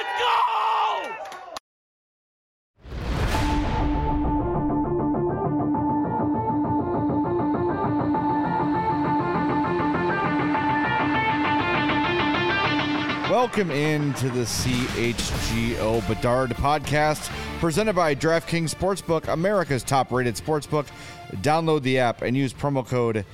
Let's go! Welcome into the CHGO Bedard podcast, presented by DraftKings Sportsbook, America's top-rated sportsbook. Download the app and use promo code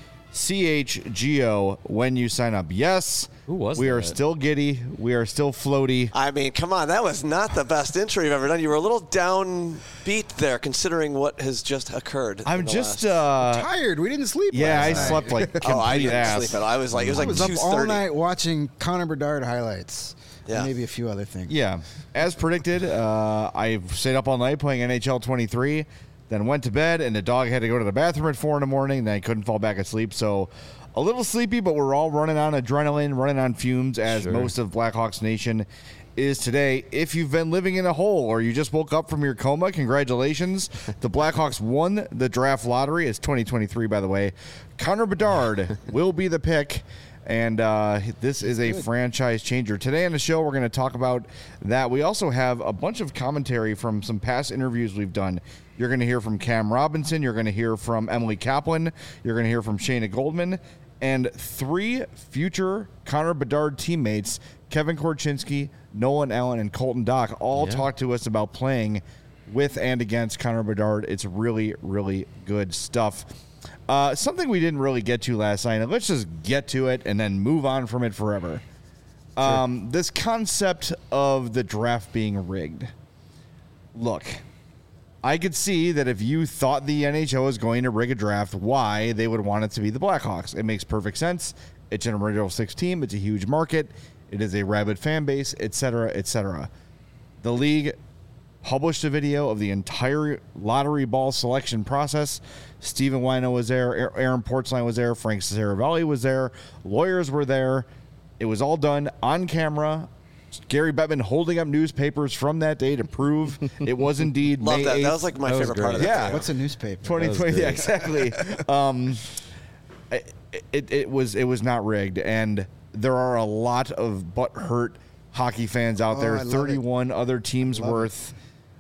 CHGO when you sign up. Yes, we are still giddy. We are still floaty. I mean, come on. That was not the best intro you've ever done. You were a little downbeat there, considering what has just occurred. I'm just tired. We didn't sleep. Yeah, I last slept night. like complete I didn't ass. sleep at all. I was like, it was like 2:30. up all night watching Connor Bedard highlights. Yeah. And maybe a few other things. Yeah, as predicted, I stayed up all night playing NHL 23, then went to bed, and the dog had to go to the bathroom at 4 in the morning. Then I couldn't fall back asleep, so a little sleepy, but we're all running on adrenaline, running on fumes, as most of Blackhawks Nation is today. If you've been living in a hole or you just woke up from your coma, congratulations. The Blackhawks won the draft lottery. It's 2023, by the way. Connor Bedard will be the pick. And this is a franchise changer. Today on the show, we're going to talk about that. We also have a bunch of commentary from some past interviews we've done. You're going to hear from Cam Robinson. You're going to hear from Emily Kaplan. You're going to hear from Shayna Goldman. And 3 future Connor Bedard teammates, Kevin Korchinski, Nolan Allen, and Colton Dock, all talk to us about playing with and against Connor Bedard. It's really, really good stuff. Something we didn't really get to last night, and let's just get to it and then move on from it forever. This concept of the draft being rigged. Look, I could see that if you thought the NHL was going to rig a draft, why they would want it to be the Blackhawks. It makes perfect sense. It's an original 6 team. It's a huge market. It is a rabid fan base, etc., etc. The league published a video of the entire lottery ball selection process. Stephen Wino was there. Aaron Portzline was there. Frank Saravalli was there. Lawyers were there. It was all done on camera. Gary Bettman holding up newspapers from that day to prove it was indeed Love May that. 8th. That was like my favorite part of that. Yeah. What's a newspaper? 2020. Yeah, exactly. It was not rigged, and there are a lot of butthurt hockey fans out there. 31 other teams worth.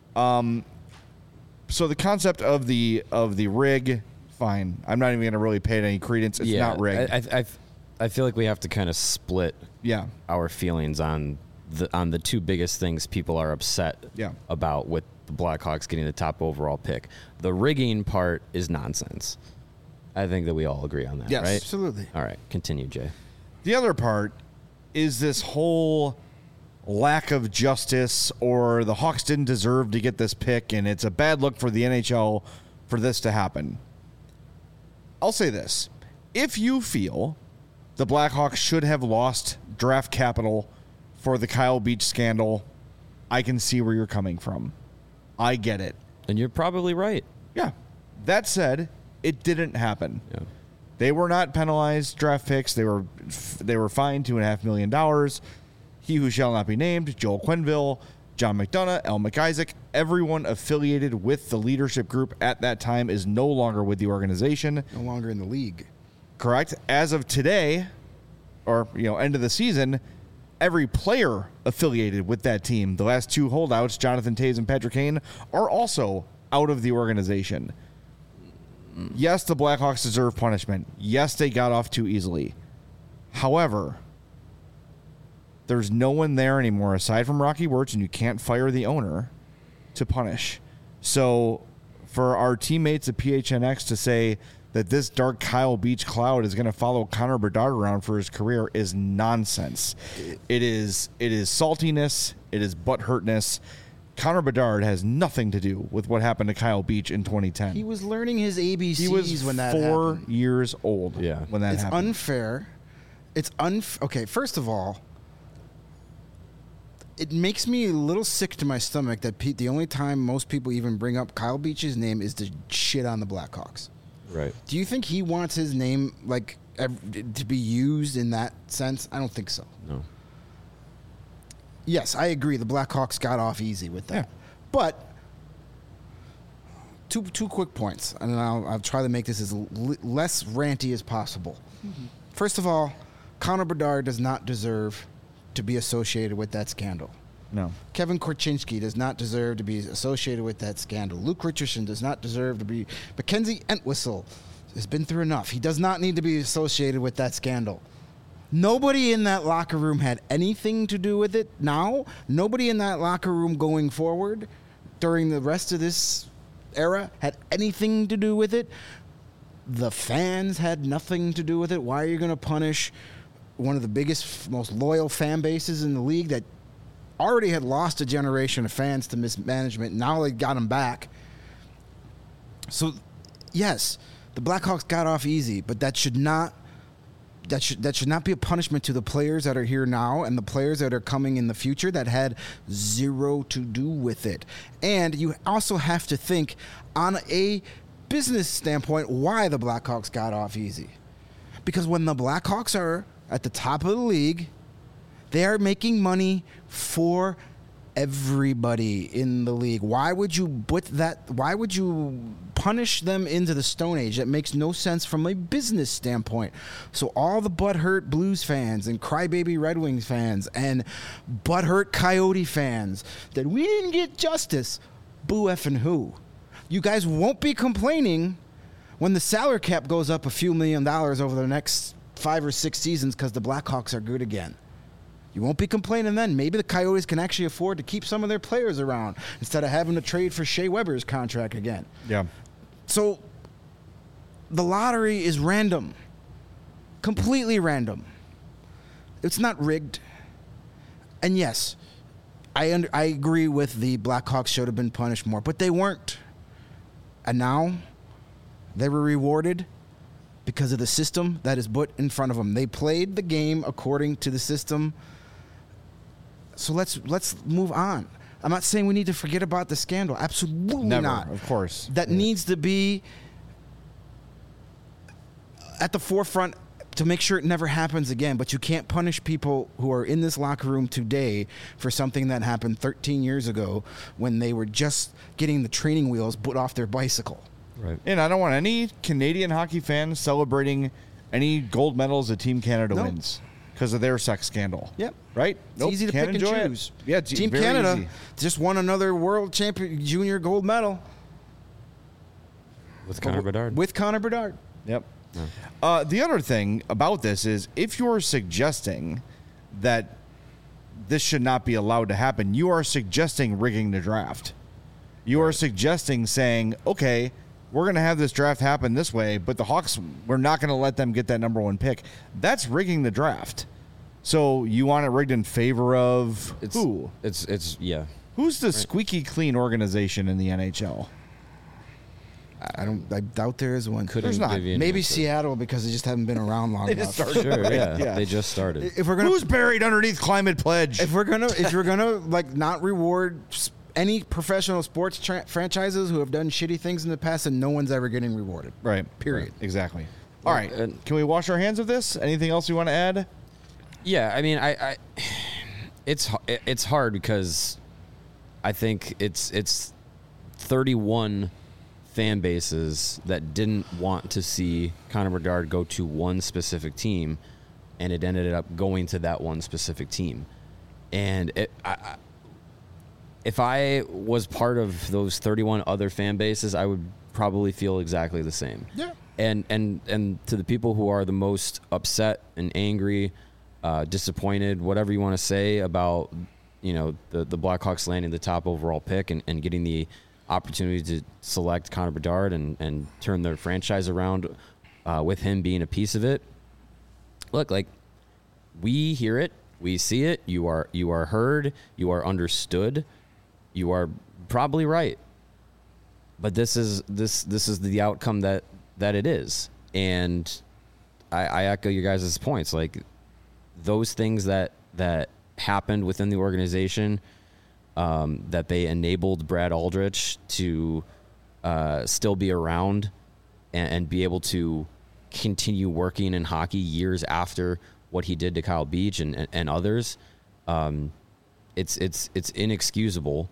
So the concept of the rig, fine. I'm not even going to really pay it any credence. It's not rigged. I feel like we have to kind of split Yeah. our feelings on the 2 biggest things people are upset about with the Blackhawks getting the top overall pick. The rigging part is nonsense. I think that we all agree on that, Yes, right? Absolutely. All right, continue, Jay. The other part is this whole lack of justice, or the Hawks didn't deserve to get this pick, and it's a bad look for the NHL for this to happen. I'll say this. If you feel the Blackhawks should have lost draft capital for the Kyle Beach scandal, I can see where you're coming from. I get it. And you're probably right. Yeah. That said, it didn't happen. Yeah. They were not penalized draft picks. They were fined $2.5 million. He who shall not be named, Joel Quenneville, John McDonough, El McIsaac, everyone affiliated with the leadership group at that time is no longer with the organization. No longer in the league. Correct. As of today, or end of the season, every player affiliated with that team, the last 2 holdouts, Jonathan Toews and Patrick Kane, are also out of the organization. Yes, the Blackhawks deserve punishment. Yes, they got off too easily. However, there's no one there anymore aside from Rocky Wirtz, and you can't fire the owner to punish. So for our teammates at PHNX to say that this dark Kyle Beach cloud is going to follow Connor Bedard around for his career is nonsense. It is saltiness. It is butthurtness. Connor Bedard has nothing to do with what happened to Kyle Beach in 2010. He was learning his ABCs He was when that 4 happened. years old when that It's happened. unfair. Okay, first of all, it makes me a little sick to my stomach that the only time most people even bring up Kyle Beach's name is to shit on the Blackhawks. Right. Do you think he wants his name to be used in that sense? I don't think so. No. Yes, I agree. The Blackhawks got off easy with that. Yeah. But two quick points, and I'll try to make this as less ranty as possible. Mm-hmm. First of all, Connor Bedard does not deserve to be associated with that scandal. No. Kevin Korchinski does not deserve to be associated with that scandal. Luke Richardson does not deserve to be. Mackenzie Entwistle has been through enough. He does not need to be associated with that scandal. Nobody in that locker room had anything to do with it now. Nobody in that locker room going forward during the rest of this era had anything to do with it. The fans had nothing to do with it. Why are you going to punish one of the biggest, most loyal fan bases in the league that already had lost a generation of fans to mismanagement? Now they got them back. So, yes, the Blackhawks got off easy, but that should not be a punishment to the players that are here now and the players that are coming in the future that had zero to do with it. And you also have to think on a business standpoint why the Blackhawks got off easy. Because when the Blackhawks are at the top of the league, they are making money for everybody in the league. Why would you punish them into the Stone Age? That makes no sense from a business standpoint. So all the butthurt Blues fans and crybaby Red Wings fans and butthurt Coyote fans that we didn't get justice, boo effing who? You guys won't be complaining when the salary cap goes up a few $1 million over the next 5 or 6 seasons because the Blackhawks are good again. You won't be complaining then. Maybe the Coyotes can actually afford to keep some of their players around instead of having to trade for Shea Weber's contract again. Yeah. So the lottery is random. Completely random. It's not rigged. And yes, I agree with the Blackhawks should have been punished more, but they weren't. And now they were rewarded because of the system that is put in front of them. They played the game according to the system. So let's move on. I'm not saying we need to forget about the scandal. Absolutely Never, not. of course. That needs to be at the forefront to make sure it never happens again. But you can't punish people who are in this locker room today for something that happened 13 years ago when they were just getting the training wheels put off their bicycle. Right. And I don't want any Canadian hockey fans celebrating any gold medals that Team Canada wins because of their sex scandal. Yep. Right? It's easy to pick and choose. Yeah, Team very Canada easy. just won another world champion junior gold medal. With Connor Bedard. With Connor Bedard. Yep. The other thing about this is if you're suggesting that this should not be allowed to happen, you are suggesting rigging the draft. You are suggesting saying, okay, we're going to have this draft happen this way, but the Hawks, we're not going to let them get that number 1 pick. That's rigging the draft. So you want it rigged in favor of who? It's yeah. Who's the squeaky clean organization in the NHL? I doubt there is one. Couldn't not. give you an Maybe answer. Seattle because they just haven't been around long enough. Sure, yeah. Yeah. They just started. If we're gonna Who's buried underneath Climate Pledge? if you're gonna like not reward any professional sports franchises who have done shitty things in the past, and no one's ever getting rewarded. Right. Period. Right. Exactly. All right. and- Can we wash our hands of this? Anything else you want to add? Yeah, I mean, it's hard because I think it's 31 fan bases that didn't want to see Connor Bedard go to one specific team, and it ended up going to that one specific team. And if I was part of those 31 other fan bases, I would probably feel exactly the same. Yeah. And to the people who are the most upset and angry, disappointed, whatever you want to say about, the Blackhawks landing the top overall pick and getting the opportunity to select Connor Bedard and turn their franchise around with him being a piece of it. Look, like, we hear it, we see it, you are heard, you are understood, you are probably right. But this is the outcome that it is. And I echo your guys' points. Like, those things that happened within the organization, that they enabled Brad Aldrich to still be around and be able to continue working in hockey years after what he did to Kyle Beach and others. It's inexcusable,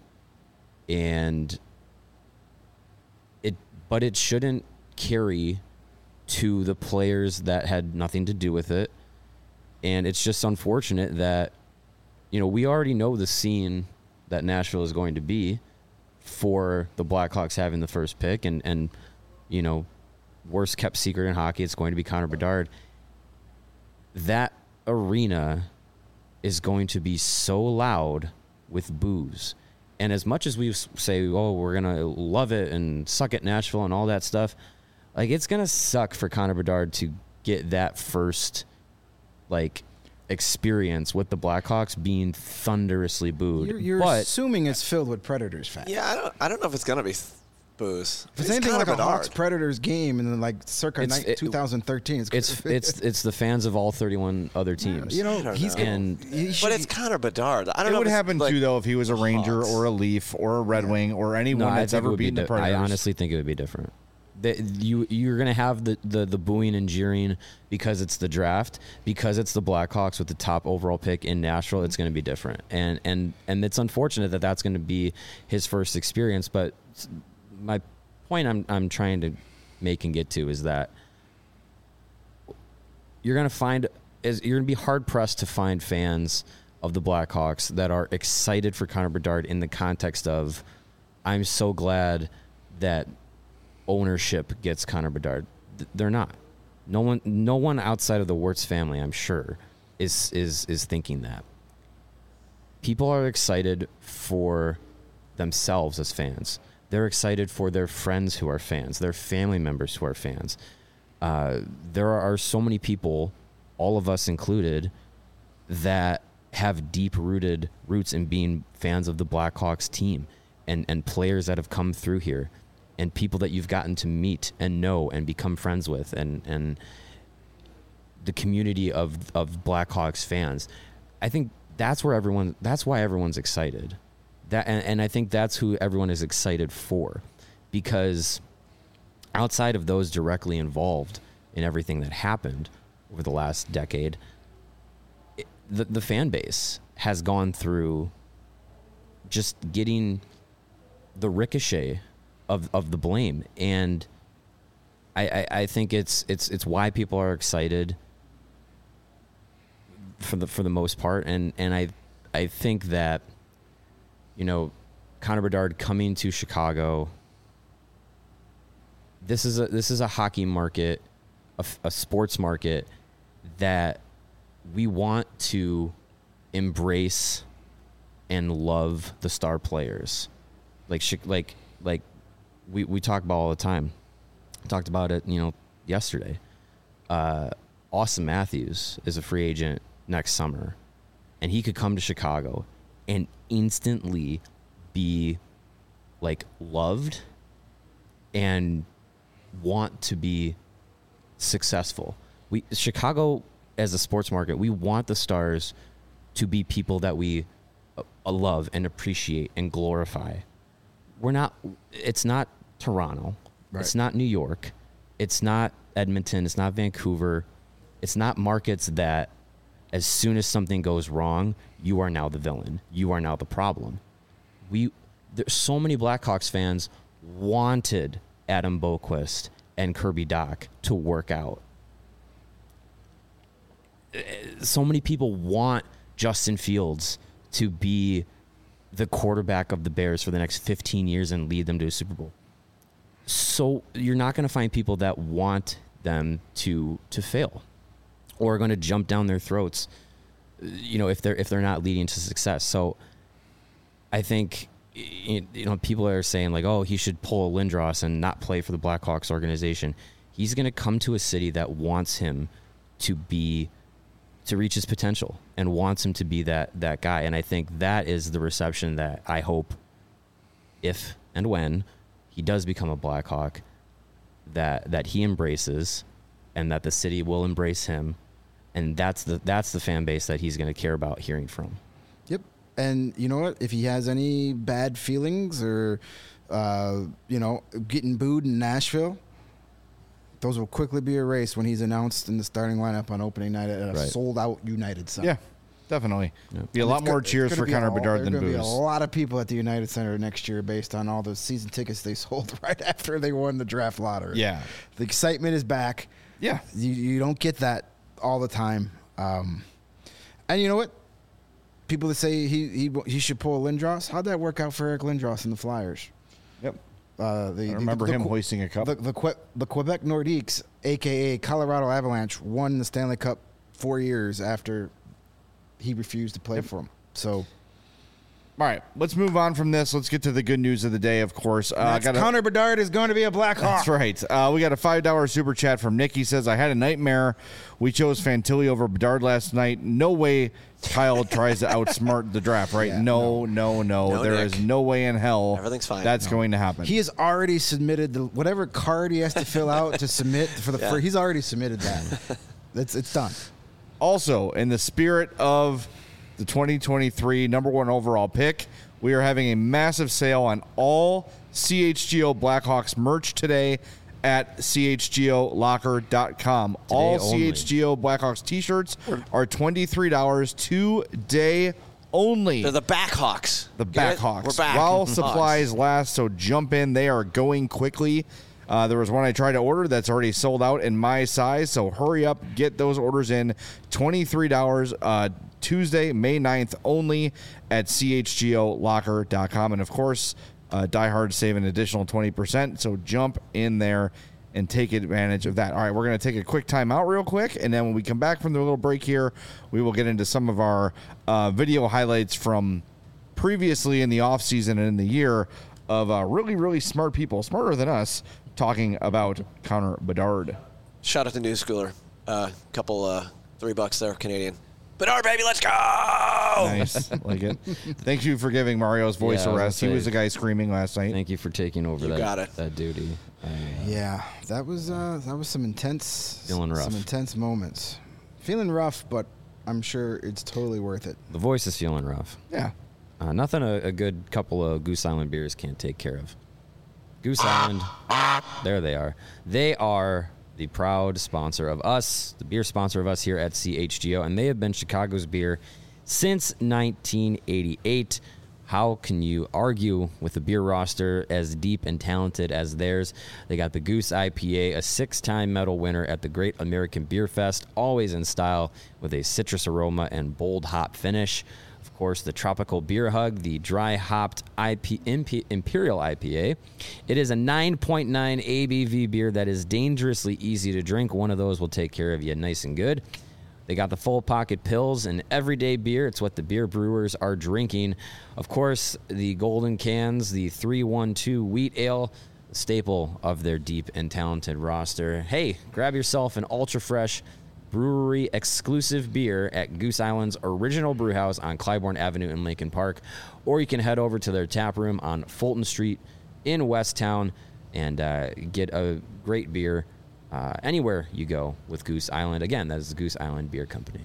but it shouldn't carry to the players that had nothing to do with it. And it's just unfortunate that we already know the scene that Nashville is going to be for the Blackhawks having the first pick, and worst kept secret in hockey, it's going to be Connor Bedard. That arena is going to be so loud with boos. And as much as we say, oh, we're going to love it and suck at Nashville and all that stuff, like, it's going to suck for Connor Bedard to get that first, like, experience with the Blackhawks being thunderously booed. You're assuming it's filled with Predators fans. Yeah, I don't know if it's going to be booze. If it's anything like a Hawks Predators game in like circa 2013, it's the fans of all 31 other teams. But it's Connor Bedard. I don't know. It would happen too, though, if he was a Ranger or a Leaf or a Red Wing or anyone that's ever beaten the Predators. I honestly think it would be different. You're going to have the booing and jeering because it's the draft, because it's the Blackhawks with the top overall pick in Nashville. It's going to be different, and it's unfortunate that that's going to be his first experience. But my point I'm trying to make and get to is that you're going to be hard pressed to find fans of the Blackhawks that are excited for Connor Bedard in the context of, I'm so glad that ownership gets Connor Bedard. They're not. No one outside of the Wirtz family, I'm sure, is thinking that. People are excited for themselves as fans. They're excited for their friends who are fans, their family members who are fans. There are so many people, all of us included, that have deep-rooted roots in being fans of the Blackhawks team, and players that have come through here, and people that you've gotten to meet and know and become friends with, and the community of Blackhawks fans. I think that's why everyone's excited. And I think that's who everyone is excited for, because outside of those directly involved in everything that happened over the last decade, the fan base has gone through just getting the ricochet of the blame, and I think it's why people are excited for the most part, and I think that Connor Bedard coming to Chicago, this is a hockey market, a sports market that we want to embrace and love the star players, like we talk about all the time. Talked about it, yesterday. Austin Matthews is a free agent next summer, and he could come to Chicago and instantly be loved and want to be successful. Chicago as a sports market, we want the Stars to be people that we love and appreciate and glorify. It's not Toronto. Right. It's not New York. It's not Edmonton. It's not Vancouver. It's not markets that as soon as something goes wrong, you are now the villain. You are now the problem. There's so many Blackhawks fans wanted Adam Boqvist and Kirby Dach to work out. So many people want Justin Fields to be the quarterback of the Bears for the next 15 years and lead them to a Super Bowl. So you're not going to find people that want them to fail or are going to jump down their throats, if they're not leading to success. So I think, people are saying oh, he should pull a Lindros and not play for the Blackhawks organization. He's going to come to a city that wants him to reach his potential and wants him to be that guy. And I think that is the reception that I hope, if and when he does become a Blackhawk, that he embraces, and that the city will embrace him. And that's the fan base that he's going to care about hearing from. Yep. And you know what? If he has any bad feelings or, getting booed in Nashville, those will quickly be erased when he's announced in the starting lineup on opening night at a sold-out United Center. Yeah, definitely. Yep. Be a lot more cheers for Connor Bedard than boos. There's going to be a lot of people at the United Center next year based on all the season tickets they sold right after they won the draft lottery. Yeah. The excitement is back. Yeah. You don't get that all the time. And you know what? people that say he should pull Lindros. How'd that work out for Eric Lindros and the Flyers? Yep. I remember him hoisting a cup. The Quebec Nordiques, a.k.a. Colorado Avalanche, won the Stanley Cup 4 years after he refused to play for them. So... All right, let's move on from this. Let's get to the good news of the day, of course. Connor Bedard is going to be a Blackhawk. That's right. We got a $5 super chat from Nick. He says, I had a nightmare. We chose Fantilli over Bedard last night. No way Kyle tries to outsmart the draft, right? Yeah, no. There Nick. is no way in hell Everything's fine. that's going to happen. He has already submitted whatever card he has to fill out to submit for the first. He's already submitted that. It's done. Also, in the spirit of the 2023 number 1 overall pick, we are having a massive sale on all CHGO Blackhawks merch today at chgolocker.com. All only. CHGO Blackhawks t-shirts are $23 today only. They're the Backhawks. The Get it? Backhawks. We're back. While supplies last, so jump in. They are going quickly. There was one I tried to order that's already sold out in my size, so hurry up, get those orders in. $23 Tuesday, May 9th only at chgolocker.com. And, of course, Die Hard save an additional 20%, so jump in there and take advantage of that. All right, we're going to take a quick time out real quick, and then when we come back from the little break here, we will get into some of our video highlights from previously in the offseason and in the year of really, really smart people, smarter than us, talking about Connor Bedard. Shout out to New Schooler. Couple $3 there, Canadian. Bedard, baby, let's go! Nice. Like it. Thank you for giving Mario's voice a rest. He was the guy screaming last night. Thank you for taking over that duty. Yeah, that was some intense, feeling rough. Some intense moments. Feeling rough, but I'm sure it's totally worth it. The voice is feeling rough. Yeah. Nothing a good couple of Goose Island beers can't take care of. Goose Island, there they are. They are the proud sponsor of us, the beer sponsor of us here at CHGO, and they have been Chicago's beer since 1988. How can you argue with a beer roster as deep and talented as theirs? They got the Goose IPA, a 6-time medal winner at the Great American Beer Fest, always in style with a citrus aroma and bold hop finish. Of course, the Tropical Beer Hug, the dry hopped Imperial IPA. It is a 9.9 ABV beer that is dangerously easy to drink. One of those will take care of you nice and good. They got the Full Pocket Pills, an everyday beer. It's what the beer brewers are drinking. Of course, the golden cans, the 312 Wheat Ale, the staple of their deep and talented roster. Hey, grab yourself an ultra fresh brewery exclusive beer at Goose Island's original brew house on Clybourne Avenue in Lincoln Park, or you can head over to their tap room on Fulton Street in Westtown and get a great beer anywhere you go with Goose Island. Again, that is the Goose Island Beer Company.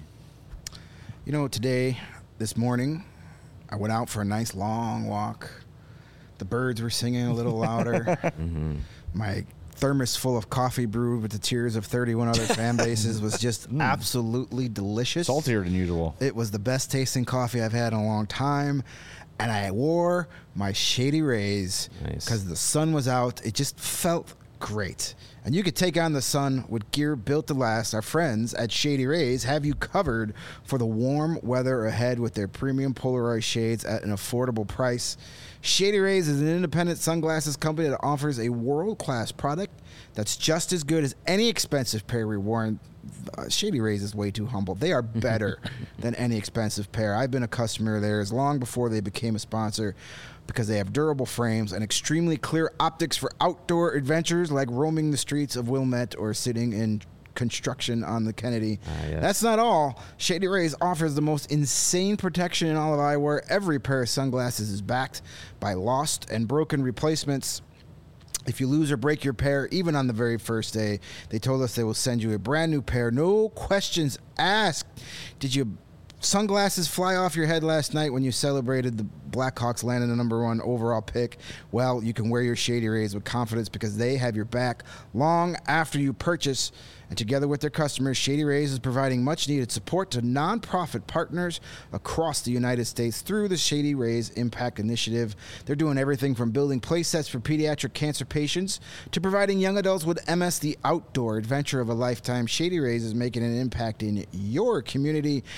You know, this morning, I went out for a nice long walk. The birds were singing a little louder. Mm-hmm. My thermos full of coffee brewed with the tears of 31 other fan bases was just absolutely delicious. Saltier than usual. It was the best tasting coffee I've had in a long time. And I wore my Shady Rays because the sun was out. It just felt great. And you could take on the sun with gear built to last. Our friends at Shady Rays have you covered for the warm weather ahead with their premium Polaroid shades at an affordable price. Shady Rays is an independent sunglasses company that offers a world-class product that's just as good as any expensive pair we worn. Shady Rays is way too humble. They are better than any expensive pair. I've been a customer of theirs long before they became a sponsor because they have durable frames and extremely clear optics for outdoor adventures like roaming the streets of Wilmette or sitting in construction on the Kennedy. Yes. That's not all. Shady Rays offers the most insane protection in all of eyewear. Every pair of sunglasses is backed by lost and broken replacements. If you lose or break your pair, even on the very first day, they told us they will send you a brand new pair. No questions asked. Did your sunglasses fly off your head last night when you celebrated the Blackhawks landing the number 1 overall pick? Well, you can wear your Shady Rays with confidence because they have your back long after you purchase. And together with their customers, Shady Rays is providing much-needed support to nonprofit partners across the United States through the Shady Rays Impact Initiative. They're doing everything from building play sets for pediatric cancer patients to providing young adults with MS the outdoor adventure of a lifetime. Shady Rays is making an impact in your community and others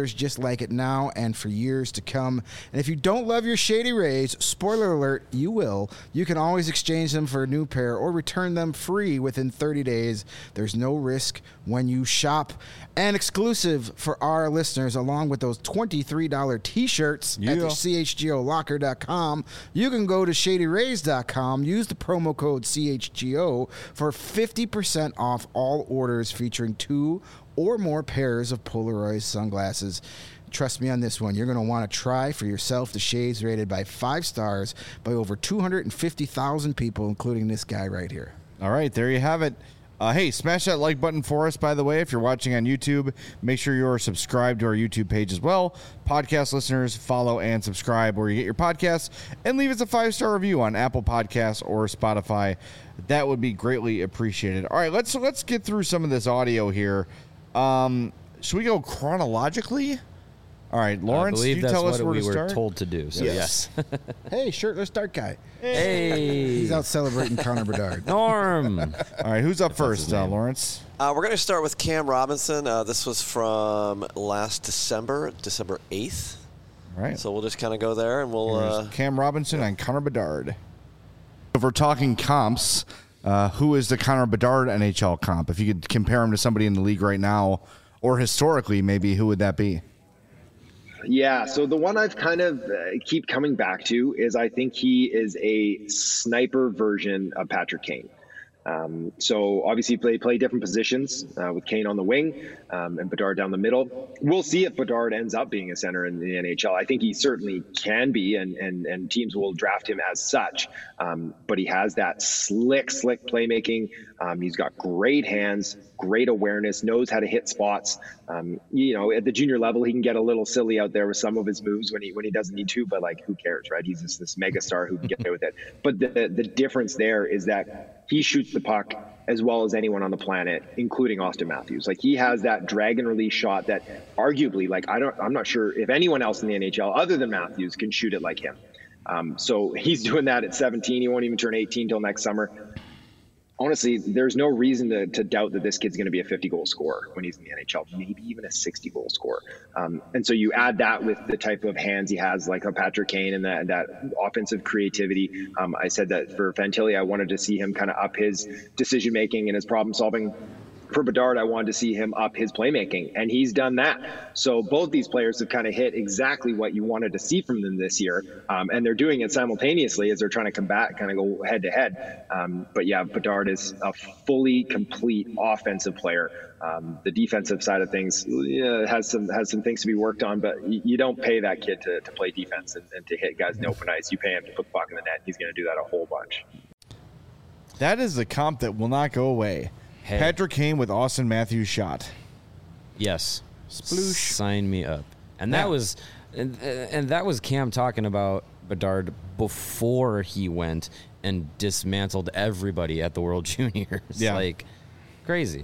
others just like it now and for years to come. And if you don't love your Shady Rays, spoiler alert, you will. You can always exchange them for a new pair or return them free within 30 days. There's no risk when you shop. And exclusive for our listeners, along with those $23 T-shirts at the CHGOlocker.com, you can go to ShadyRays.com, use the promo code CHGO for 50% off all orders featuring 2 or more pairs of Polaroid sunglasses. Trust me on this one. You're going to want to try for yourself the shades rated by 5 stars by over 250,000 people, including this guy right here. All right, there you have it. Hey, smash that like button for us, by the way. If you're watching on YouTube, make sure you're subscribed to our YouTube page as well. Podcast listeners, follow and subscribe where you get your podcasts, and leave us a 5-star review on Apple Podcasts or Spotify. That would be greatly appreciated. All right, let's get through some of this audio here. Should we go chronologically? All right, Lawrence, you tell us where to start. We were told to do, so yes. Hey, shirtless dark guy. Hey. He's out celebrating Connor Bedard. Norm. All right, who's up first, Lawrence? We're going to start with Cam Robinson. This was from last December 8th. All right. So we'll just kind of go there, and we'll... Cam Robinson and Connor Bedard. If we're talking comps, who is the Connor Bedard NHL comp? If you could compare him to somebody in the league right now, or historically, maybe, who would that be? Yeah, so the one I've kind of keep coming back to is I think he is a sniper version of Patrick Kane. So obviously play different positions with Kane on the wing and Bedard down the middle. We'll see if Bedard ends up being a center in the NHL. I think he certainly can be, and teams will draft him as such. But he has that slick playmaking. He's got great hands, great awareness, knows how to hit spots. At the junior level, he can get a little silly out there with some of his moves when he doesn't need to, but like, who cares, right? He's just this mega star who can get away with it. But the difference there is that he shoots the puck as well as anyone on the planet, including Austin Matthews. Like, he has that drag and release shot that arguably, like, I'm not sure if anyone else in the NHL other than Matthews can shoot it like him. So he's doing that at 17. He won't even turn 18 till next summer. Honestly, there's no reason to doubt that this kid's going to be a 50-goal scorer when he's in the NHL, maybe even a 60-goal scorer. And so you add that with the type of hands he has, like a Patrick Kane, and that offensive creativity. I said that for Fantilli, I wanted to see him kind of up his decision-making and his problem-solving. For Bedard, I wanted to see him up his playmaking, and he's done that. So both these players have kind of hit exactly what you wanted to see from them this year, and they're doing it simultaneously as they're trying to combat, kind of go head-to-head. But yeah, Bedard is a fully complete offensive player. The defensive side of things has some things to be worked on, but you don't pay that kid to play defense and to hit guys in open ice. You pay him to put the puck in the net. He's going to do that a whole bunch. That is the comp that will not go away. Hey. Patrick Kane with Austin Matthews shot. Yes. Sploosh. Sign me up. And that was and that was Cam talking about Bedard before he went and dismantled everybody at the World Juniors. Yeah. Like, crazy.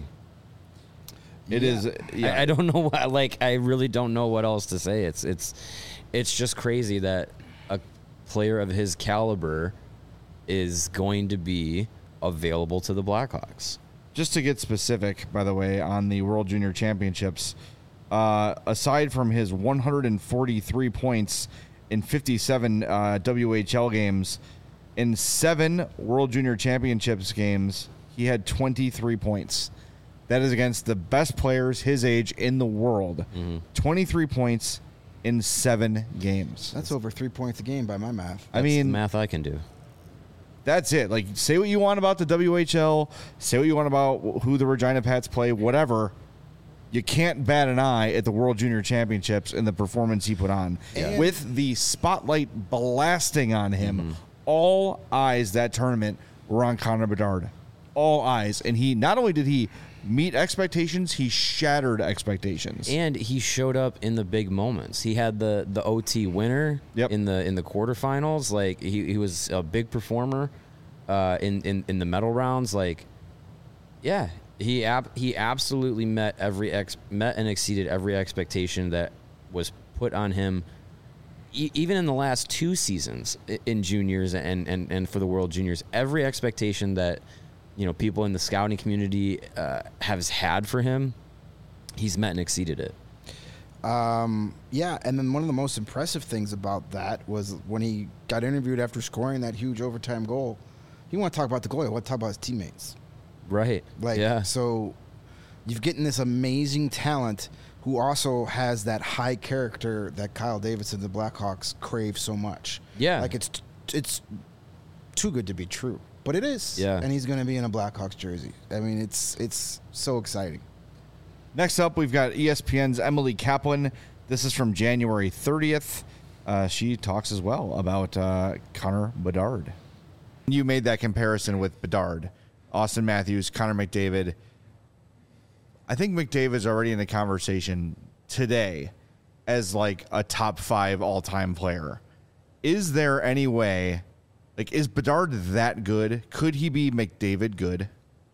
It is. Yeah. I don't know what, like, I really don't know what else to say. It's just crazy that a player of his caliber is going to be available to the Blackhawks. Just to get specific, by the way, on the World Junior Championships, aside from his 143 points in 57 WHL games, in 7 World Junior Championships games, he had 23 points. That is against the best players his age in the world. Mm-hmm. 23 points in 7 games. That's over 3 points a game by my math. That's the math I can do. That's it. Like, say what you want about the WHL, say what you want about who the Regina Pats play, whatever. You can't bat an eye at the World Junior Championships and the performance he put on. Yeah. With the spotlight blasting on him, all eyes that tournament were on Connor Bedard. All eyes. And he, not only did he meet expectations, he shattered expectations. And he showed up in the big moments. He had the OT winner in the quarterfinals. Like, he was a big performer in the medal rounds. Like, yeah, he absolutely met and exceeded every expectation that was put on him. Even in the last 2 seasons in juniors and for the World Juniors, every expectation that people in the scouting community has had for him, he's met and exceeded it. Yeah, and then one of the most impressive things about that was when he got interviewed after scoring that huge overtime goal. He didn't want to talk about the goal. He wanted to talk about his teammates. Right. So you've getting this amazing talent who also has that high character that Kyle Davidson, the Blackhawks, crave so much. Yeah. Like it's too good to be true. But it is. Yeah. And he's going to be in a Blackhawks jersey. I mean, it's so exciting. Next up, we've got ESPN's Emily Kaplan. This is from January 30th. She talks as well about Connor Bedard. You made that comparison with Bedard, Austin Matthews, Connor McDavid. I think McDavid's already in the conversation today as like a top 5 all-time player. Is there any way, like, is Bedard that good? Could he be McDavid good?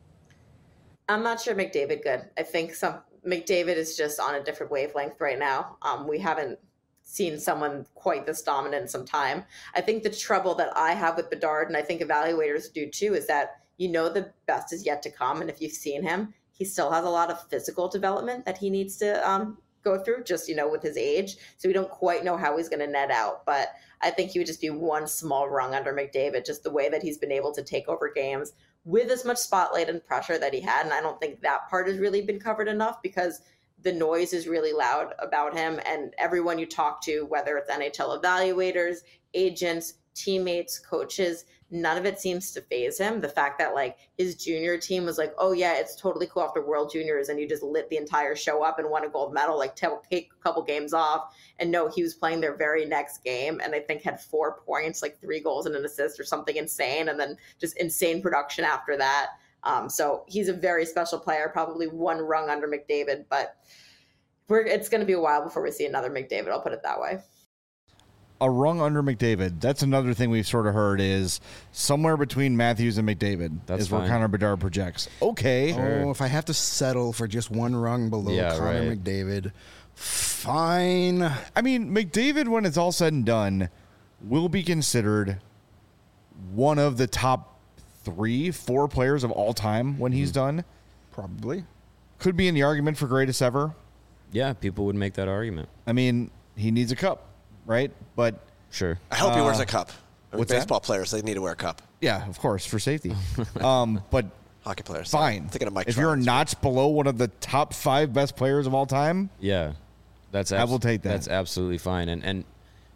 I'm not sure McDavid good. I think McDavid is just on a different wavelength right now. We haven't seen someone quite this dominant in some time. I think the trouble that I have with Bedard, and I think evaluators do too, is that the best is yet to come. And if you've seen him, he still has a lot of physical development that he needs to go through just, with his age. So we don't quite know how he's going to net out. But I think he would just be one small rung under McDavid, just the way that he's been able to take over games with as much spotlight and pressure that he had. And I don't think that part has really been covered enough because the noise is really loud about him. And everyone you talk to, whether it's NHL evaluators, agents, teammates, coaches, none of it seems to faze him. The fact that like his junior team was like, oh yeah, it's totally cool after World Juniors, and you just lit the entire show up and won a gold medal, like take a couple games off. And no, he was playing their very next game and I think had 4 points, like 3 goals and an assist or something insane, and then just insane production after that. So he's a very special player, probably one rung under McDavid, but it's going to be a while before we see another McDavid. I'll put it that way. A rung under McDavid. That's another thing we've sort of heard is somewhere between Matthews and McDavid. That's is fine. Where Connor Bedard projects. Okay. Sure. Oh, if I have to settle for just one rung below Connor McDavid, fine. I mean, McDavid, when it's all said and done, will be considered one of the top 3-4 players of all time when he's done. Probably. Could be in the argument for greatest ever. Yeah, people would make that argument. I mean, he needs a cup, right? But sure. I hope he wears a cup. What's baseball that? players, they need to wear a cup. Yeah, of course, for safety. But hockey players. Fine. I'm thinking of Mike if Trout. you're a notch below one of the top 5 best players of all time, yeah, I will take that. That's absolutely fine. And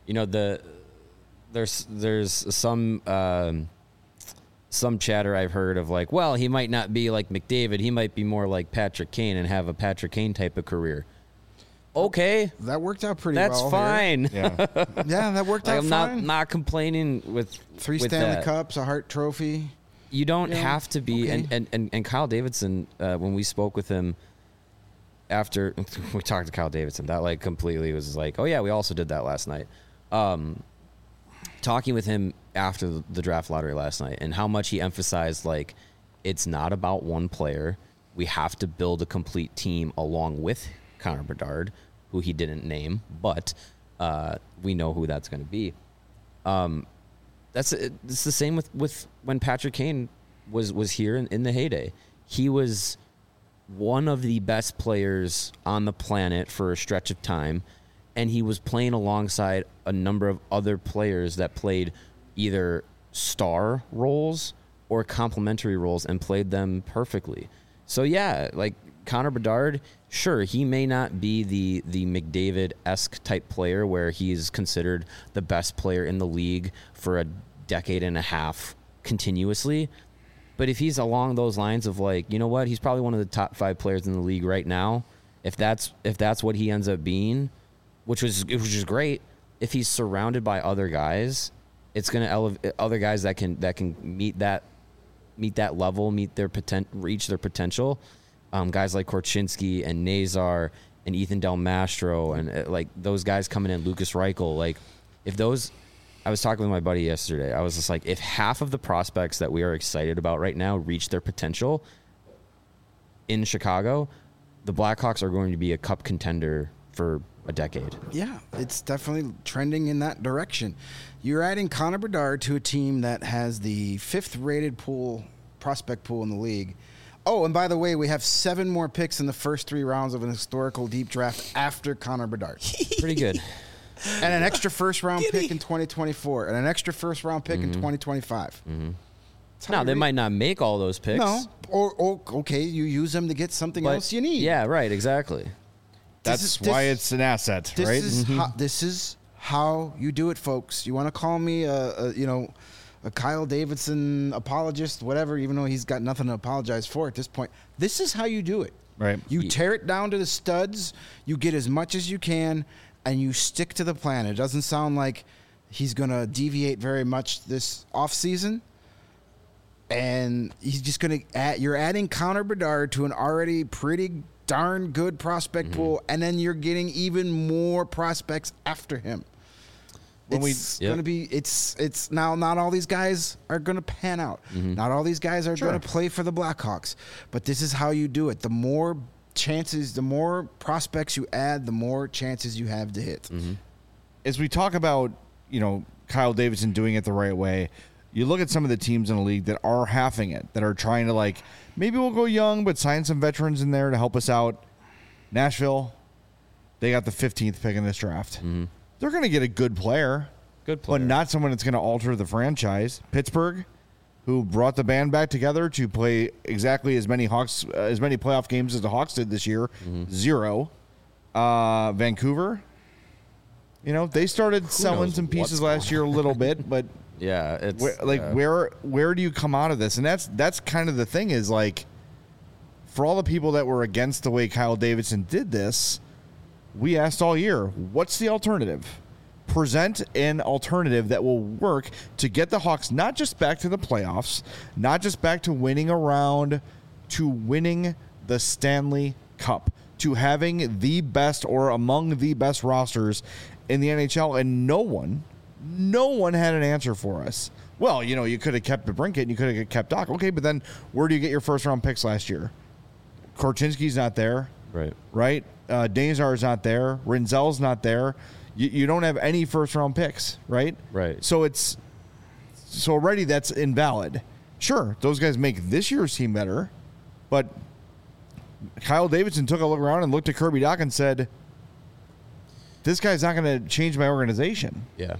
there's some chatter I've heard of like, well, he might not be like McDavid. He might be more like Patrick Kane and have a Patrick Kane type of career. Okay, that worked out pretty well. That's fine. Yeah, yeah, that worked out I'm fine. not complaining with 3 with Stanley that. Cups, a Hart Trophy. You don't have to be. Okay. And Kyle Davidson, when we spoke with him after we talked to Kyle Davidson, that like completely was like, oh yeah, we also did that last night. Talking with him after the draft lottery last night and how much he emphasized like it's not about one player. We have to build a complete team along with Connor Bedard, who he didn't name, but we know who that's going to be. It's the same with when Patrick Kane was here in the heyday. He was one of the best players on the planet for a stretch of time, and he was playing alongside a number of other players that played either star roles or complementary roles and played them perfectly. So yeah, like Connor Bedard, sure, he may not be the McDavid-esque type player where he's considered the best player in the league for a decade and a half continuously. But if he's along those lines of like, you know what, he's probably one of the top 5 players in the league right now. If that's what he ends up being, which is great. If he's surrounded by other guys, it's going to elevate other guys that can meet that level, reach their potential. Guys like Korchinski and Nazar and Ethan Del Mastro and like those guys coming in, Lucas Reichel. Like I was talking with my buddy yesterday. I was just like, if half of the prospects that we are excited about right now reach their potential in Chicago, the Blackhawks are going to be a cup contender for a decade. Yeah, it's definitely trending in that direction. You're adding Connor Bedard to a team that has the 5th rated prospect pool in the league. Oh, and by the way, we have 7 more picks in the first 3 rounds of an historical deep draft after Connor Bedard. Pretty good. And an extra first-round pick in 2024. And an extra first-round pick in 2025. Now, they might not make all those picks. No. Or okay, you use them to get something else you need. Yeah, right, exactly. That's why it's an asset, right? This is how you do it, folks. You want to call me a Kyle Davidson apologist, whatever, even though he's got nothing to apologize for at this point. This is how you do it. Right. You tear it down to the studs, you get as much as you can, and you stick to the plan. It doesn't sound like he's going to deviate very much this offseason. And he's just going to you're adding Connor Bedard to an already pretty darn good prospect pool, and then you're getting even more prospects after him. It's going to be it's now not all these guys are going to pan out. Not all these guys are going to play for the Blackhawks, but this is how you do it. The more chances, the more prospects you add, the more chances you have to hit. As we talk about, Kyle Davidson doing it the right way, you look at some of the teams in the league that are halving it, that are trying to maybe we'll go young, but sign some veterans in there to help us out. Nashville, they got the 15th pick in this draft. They're going to get a good player, but not someone that's going to alter the franchise. Pittsburgh, who brought the band back together to play exactly as many playoff games as the Hawks did this year, 0. Vancouver, they started selling some pieces last year a little bit, but yeah, it's where do you come out of this? And that's kind of the thing is for all the people that were against the way Kyle Davidson did this. We asked all year, what's the alternative? Present an alternative that will work to get the Hawks not just back to the playoffs, not just back to winning a round, to winning the Stanley Cup, to having the best or among the best rosters in the NHL. And no one had an answer for us. Well, you could have kept DeBrincat and you could have kept Doc. Okay, but then where do you get your first-round picks last year? Korchinski's not there. Right? Danzar's not there. Rinzel's not there. You don't have any first-round picks, right? Right. So already that's invalid. Sure, those guys make this year's team better, but Kyle Davidson took a look around and looked at Kirby Dach and said, this guy's not going to change my organization. Yeah.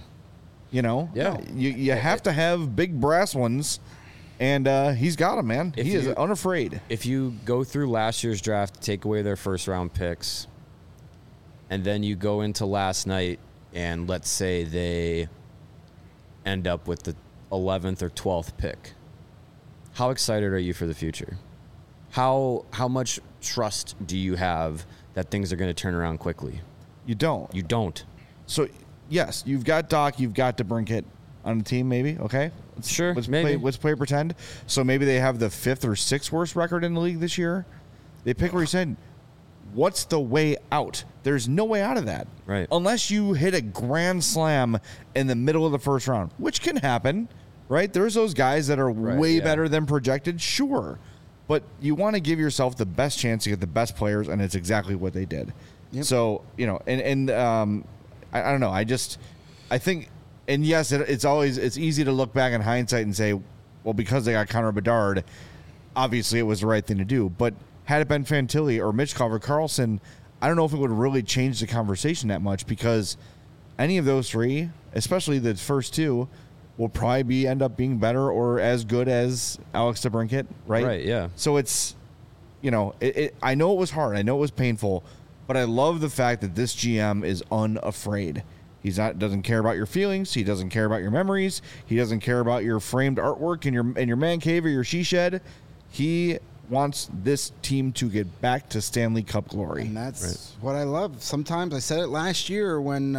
You have to have big brass ones, and he's got them, man. He is unafraid. If you go through last year's draft, take away their first-round picks, and then you go into last night, and let's say they end up with the 11th or 12th pick, how excited are you for the future? How much trust do you have that things are going to turn around quickly? You don't. You don't. So, yes, you've got Doc, you've got DeBrincat on the team, maybe. Okay, sure. Let's play pretend. So maybe they have the 5th or 6th worst record in the league this year. They pick where you said, what's the way out? There's no way out of that, right? Unless you hit a grand slam in the middle of the first round, which can happen, right? There's those guys that are way better than projected, sure, but you want to give yourself the best chance to get the best players, and it's exactly what they did. Yep. So I don't know. I think. And yes, it's easy to look back in hindsight and say, well, because they got Connor Bedard, obviously it was the right thing to do. But had it been Fantilli or Mitch Carver-Carlson, I don't know if it would really change the conversation that much, because any of those three, especially the first two, will probably end up being better or as good as Alex DeBrincat, right? Right, yeah. So it's, I know it was hard. I know it was painful, but I love the fact that this GM is unafraid. Doesn't care about your feelings. He doesn't care about your memories. He doesn't care about your framed artwork in your man cave or your she shed. He wants this team to get back to Stanley Cup glory. And that's what I love. Sometimes I said it last year when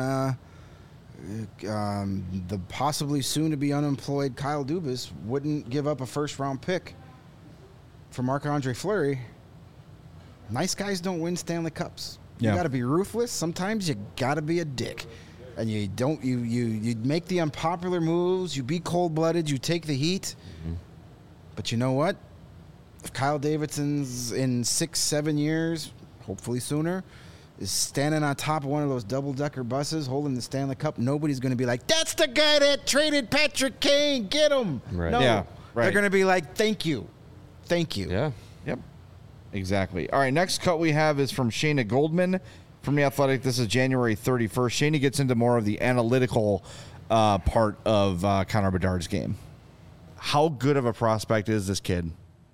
the possibly soon-to-be unemployed Kyle Dubas wouldn't give up a first-round pick for Marc-Andre Fleury. Nice guys don't win Stanley Cups. You got to be ruthless. Sometimes you got to be a dick. And you make the unpopular moves. You be cold-blooded. You take the heat. Mm-hmm. But you know what? If Kyle Davidson's in 6-7 years, hopefully sooner, is standing on top of one of those double-decker buses holding the Stanley Cup, nobody's going to be like, that's the guy that traded Patrick Kane. Get him. Right. No. Yeah, right. They're going to be like, thank you. Thank you. Yeah. Yep. Exactly. All right, next cut we have is from Shayna Goldman from The Athletic. This is January 31st. Shayna gets into more of the analytical part of Connor Bedard's game. How good of a prospect is this kid?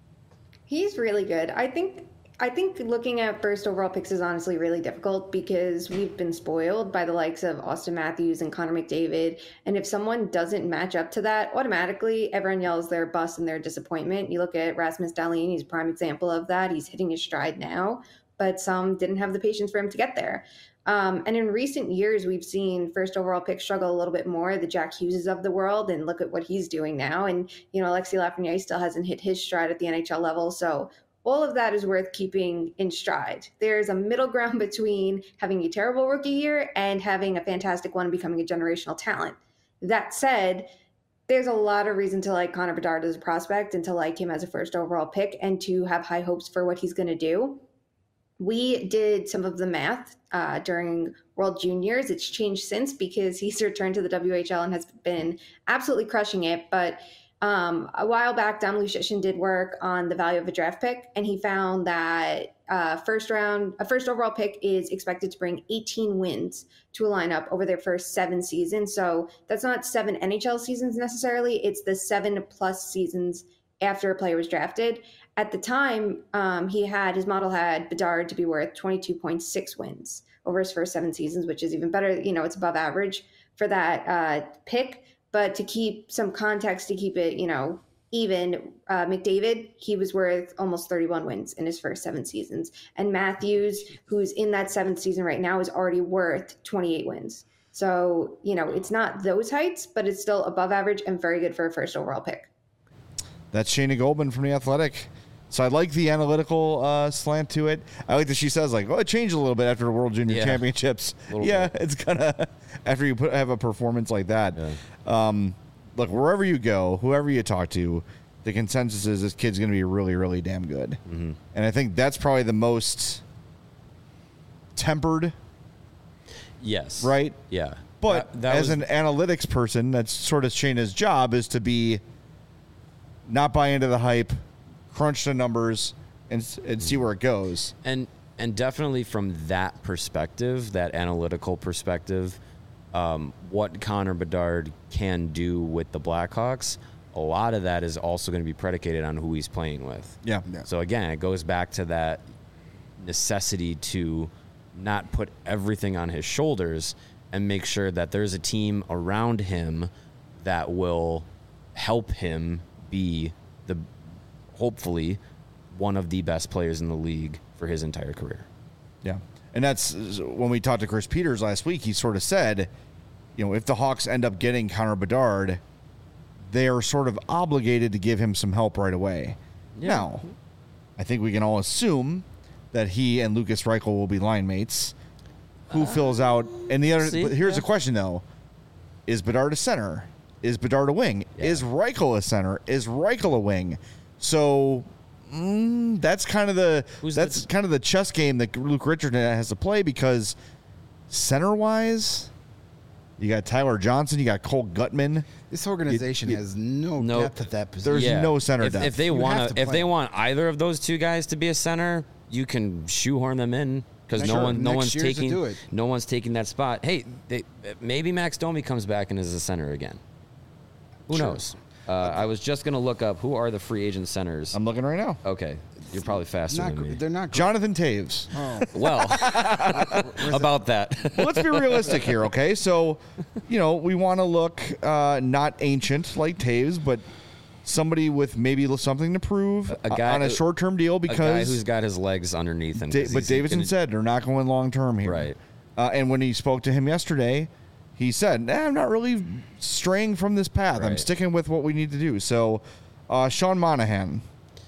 He's really good. I think looking at first overall picks is honestly really difficult because we've been spoiled by the likes of Austin Matthews and Connor McDavid. And if someone doesn't match up to that, automatically everyone yells their bust and their disappointment. You look at Rasmus Dahlin, he's a prime example of that. He's hitting his stride now, but some didn't have the patience for him to get there. And in recent years, we've seen first overall picks struggle a little bit more, the Jack Hugheses of the world, and look at what he's doing now. And, Alexis Lafreniere still hasn't hit his stride at the NHL level. So all of that is worth keeping in stride. There's a middle ground between having a terrible rookie year and having a fantastic one and becoming a generational talent. That said, there's a lot of reason to like Connor Bedard as a prospect and to like him as a first overall pick and to have high hopes for what he's going to do. We did some of the math during World Juniors. It's changed since because he's returned to the WHL and has been absolutely crushing it. But a while back, Dom Lucian did work on the value of a draft pick, and he found that a first overall pick is expected to bring 18 wins to a lineup over their first 7 seasons. So that's not 7 NHL seasons necessarily. It's the 7+ seasons after a player was drafted. At the time, his model had Bedard to be worth 22.6 wins over his first 7 seasons, which is even better. It's above average for that pick. But to keep some context, to keep it, even, McDavid, he was worth almost 31 wins in his first 7 seasons. And Matthews, who's in that 7th season right now, is already worth 28 wins. So, it's not those heights, but it's still above average and very good for a first overall pick. That's Shayna Goldman from The Athletic. So I like the analytical slant to it. I like that she says, it changed a little bit after the World Junior Championships. Yeah, bit. It's going to, after you have a performance like that. Yeah. Look, wherever you go, whoever you talk to, the consensus is this kid's going to be really, really damn good. Mm-hmm. And I think that's probably the most tempered. Yes. Right? Yeah. But as an analytics person, that's sort of Shayna's job, is to be not buy into the hype, crunch the numbers, and see where it goes. And definitely from that perspective, that analytical perspective, what Connor Bedard can do with the Blackhawks, a lot of that is also going to be predicated on who he's playing with. Yeah. So again, it goes back to that necessity to not put everything on his shoulders and make sure that there's a team around him that will help him be hopefully one of the best players in the league for his entire career. Yeah. And that's when we talked to Chris Peters last week, he sort of said, if the Hawks end up getting Connor Bedard, they are sort of obligated to give him some help right away. Yeah. Now, I think we can all assume that he and Lucas Reichel will be line mates. Who fills out? And here's the question, though. Is Bedard a center? Is Bedard a wing? Yeah. Is Reichel a center? Is Reichel a wing? So that's kind of the chess game that Luke Richardson has to play, because center-wise, you got Tyler Johnson, you got Cole Gutman. This organization has no depth at that position. There's no center depth. If they want either of those two guys to be a center, you can shoehorn them in, because no one's taking that spot. Hey, maybe Max Domi comes back and is a center again. Who knows? I was just going to look up who are the free agent centers. I'm looking right now. Okay. You're probably faster than me. They're not Jonathan Taves. Oh. Well, about that. Well, let's be realistic here, okay? So, we want to look not ancient like Taves, but somebody with maybe something to prove on a short-term deal, because a guy who's got his legs underneath him. But Davidson said they're not going long-term here. Right. And when he spoke to him yesterday, he said, I'm not really straying from this path. Right. I'm sticking with what we need to do. So, Sean Monahan,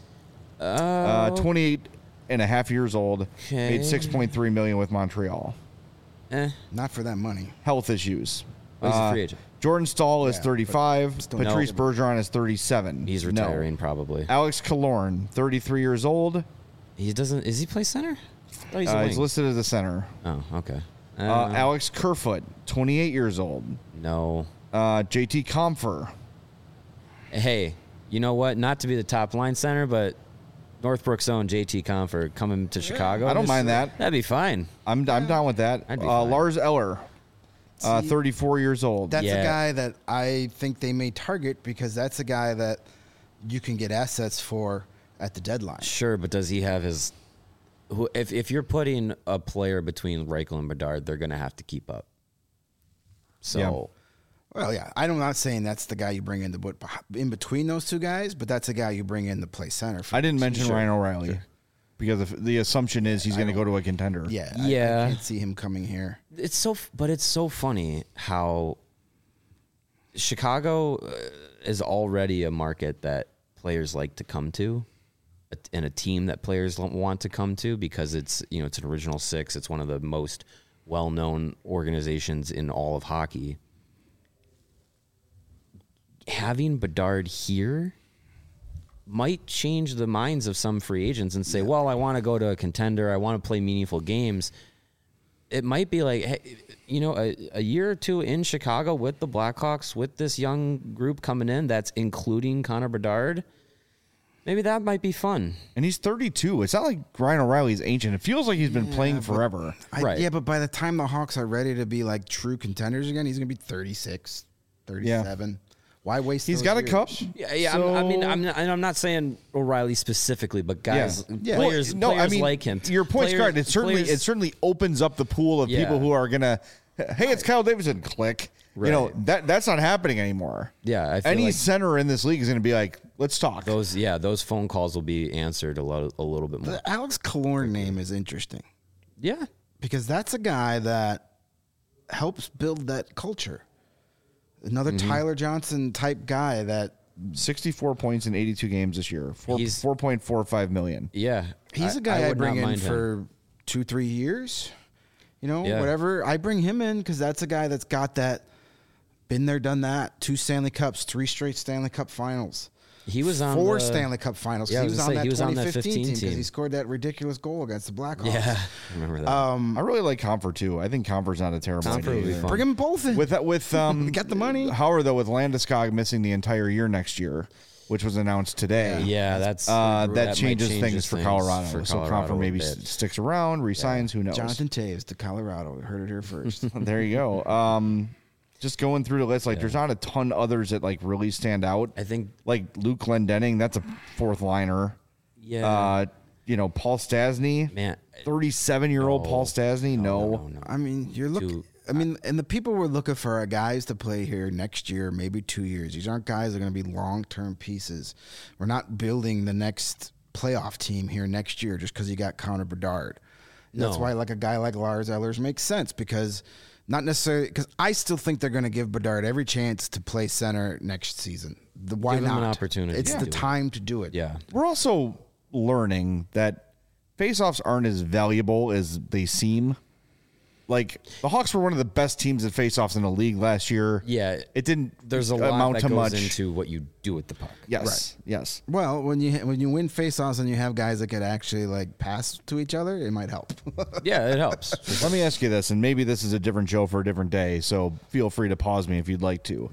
28 and a half years old, made $6.3 million with Montreal. Not for that money. Health issues. He's a free agent. Jordan Stahl is 35. Patrice Bergeron is 37. He's retiring probably. Alex Killorn, 33 years old. Is he play center? He's listed as a center. Oh, okay. Alex Kerfoot, 28 years old. No. JT Compher. Hey, you know what? Not to be the top line center, but Northbrook's own JT Compher coming to Chicago. I don't mind that. That'd be fine. I'm down with that. I'd be fine. Lars Eller, 34 years old. That's Yeah. a guy that I think they may target because that's a guy that you can get assets for at the deadline. Sure, but does he have his? If you're putting a player between Reichel and Bedard, they're going to have to keep up. So, Well, yeah, I'm not saying that's the guy you bring in to put in between those two guys, but that's a guy you bring in to play center. I didn't mention Ryan O'Reilly because the assumption is he's going to go to a contender. Yeah, Yeah. I can't see him coming here. it's so funny how Chicago is already a market that players like to come to, and a team that players want to come to because it's it's an original six. It's one of the most well-known organizations in all of hockey. Having Bedard here might change the minds of some free agents and say, well, I want to go to a contender. I want to play meaningful games. It might be like, hey, a year or two in Chicago with the Blackhawks, with this young group coming in, that's including Connor Bedard. Maybe that might be fun. And he's 32. It's not like Ryan O'Reilly's ancient. It feels like he's been playing forever. Right. Yeah, but by the time the Hawks are ready to be like true contenders again, he's going to be 36, 37. Why waste He's those got a years? cup. Yeah. So- I'm not saying O'Reilly specifically, but guys, Yeah. players like him. Your point's Players- correct. It certainly opens up the pool of Yeah. people who are gonna. Hey, it's Kyle Davidson. Click. Right. That's not happening anymore. Yeah, I feel Any like center in this league is going to be like, let's talk. those phone calls will be answered a little bit more. The Alex Killorn name is interesting Yeah. because that's a guy that helps build that culture. Another Tyler Johnson type guy that 64 points in 82 games this year. He's- 4.45 million. Yeah. he's a guy I would bring not in mind him. for 2-3 years. Yeah. Whatever. I bring him in because that's a guy that's got that, been there, done that. 2 Stanley Cups, 3 straight Stanley Cup finals. He was on 4 the- Stanley Cup finals. Yeah, I He was was gonna on say, that he was on that 2015 team 15 because he team. scored that ridiculous goal against the Blackhawks. Yeah. I remember that. I really like Comfort too. I think Comfort's not a terrible Comfort idea would be either. fun. Bring them both in. With Get the money. Howard though, with Landeskog missing the entire year next year, which was announced today. yeah, that's That might changes change things for Colorado. for So Colorado Comfort a maybe bit. sticks around, resigns. Who knows? Jonathan Taves to Colorado. We heard it here first. There you go. Just going through the list, there's not a ton others that really stand out. I think Like Luke Glendening, that's a fourth liner. yeah. Paul Stastny, Man, 37-year-old Paul Stastny. No. I mean, you're looking. And the people we're looking for are guys to play here next year, maybe 2 years. These aren't guys that are going to be long-term pieces. We're not building the next playoff team here next year just because you got Connor Bedard. That's No. why like a guy like Lars Ellers makes sense because not necessarily because I still think they're going to give Bedard every chance to play center next season. Why Give him not? an opportunity It's to the do it. time to do it. Yeah. We're also learning that faceoffs aren't as valuable as they seem. Like the Hawks were one of the best teams at faceoffs in the league last year. Yeah. It didn't There's a lot amount that to goes much. into what you do with the puck. Yes. Yes. Well, when you win faceoffs and you have guys that could actually like pass to each other, it might help. Yeah, it helps. Let me ask you this, and maybe this is a different show for a different day, so feel free to pause me if you'd like to.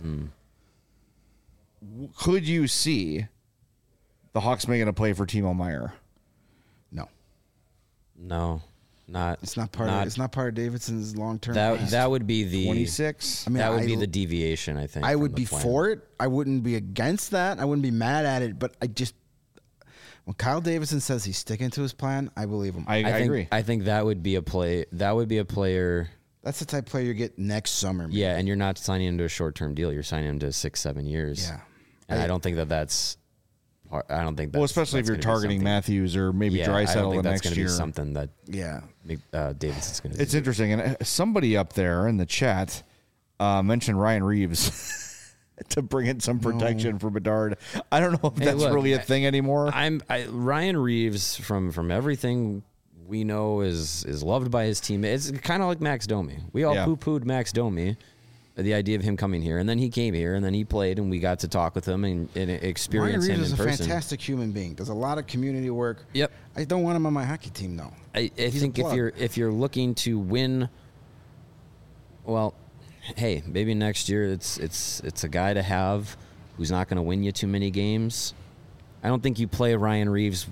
Could you see the Hawks making a play for Timo Meier? No, No, not. it's not part. It's not part of Davidson's long term. That would be the 26? I mean, that would be the deviation. I think I from would the be plan. for it. I wouldn't be against that. I wouldn't be mad at it. But I just when Kyle Davidson says he's sticking to his plan, I believe him. I think, agree. I think that would be a play. That would be a player. That's the type of player you get next summer. maybe. Yeah, and you're not signing him to a short-term deal. You're signing him to 6-7 years. Yeah. and I don't think that's. I don't think. That's, Well, especially if that's you're gonna be targeting something- Matthews or maybe Yeah, I don't Draisaitl think the that's next going to year. be something that Yeah. Davidson's going to. It's interesting, and somebody up there in the chat mentioned Ryan Reeves to bring in some protection for Bedard. I don't know if Hey, that's look, really a thing anymore. Ryan Reeves from everything we know is loved by his team. It's kind of like Max Domi. We all poo-pooed Max Domi, the idea of him coming here, and then he came here, and then he played, and we got to talk with him and experience Ryan him Reeves in is a person. fantastic human being. Does a lot of community work. Yep. I don't want him on my hockey team though. I think a plug. if you're looking to win, well, hey, maybe next year it's a guy to have who's not going to win you too many games. I don't think you play Ryan Reeves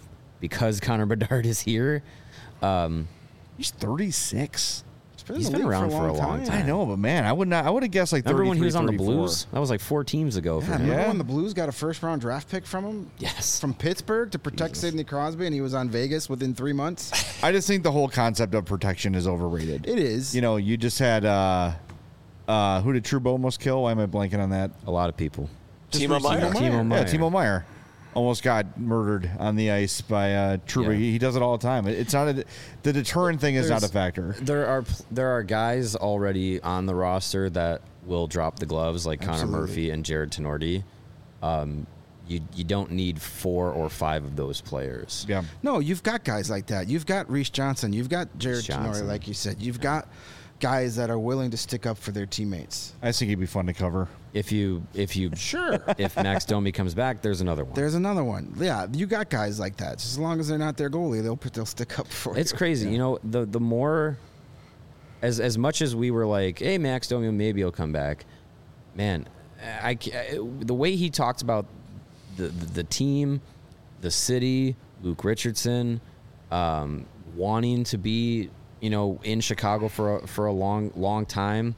because Connor Bedard is here. He's 36. He's been around for a long time. I know, but man, I would have guessed like 33, remember when he was on the 34. Blues? That was like 4 teams ago for him. Remember when the Blues got a first-round draft pick from him? Yes. From Pittsburgh to protect Sidney Crosby, and he was on Vegas within 3 months? I just think the whole concept of protection is overrated. It is. You know, you just had who did Trouba almost kill? Why am I blanking on that? A lot of people. Timo Meier. Timo Meier. Yeah, Timo Meier almost got murdered on the ice by Trouba. Yeah. He does it all the time. It's not the deterrent thing is not a factor. There are guys already on the roster that will drop the gloves, like Connor Murphy and Jared Tenorti. You don't need 4 or 5 of those players. Yeah. No, you've got guys like that. You've got Reese Johnson. You've got Jared Tenorti, like you said. You've got guys that are willing to stick up for their teammates. I think he'd be fun to cover. Sure. If Max Domi comes back, there's another one. There's another one. Yeah, you got guys like that. Just as long as they're not their goalie, they'll stick up for you. It's crazy. Yeah. You know, the more as much as we were like, hey, Max Domi, maybe he'll come back. Man, the way he talked about the team, the city, Luke Richardson, wanting to be, you know, in Chicago for a long time.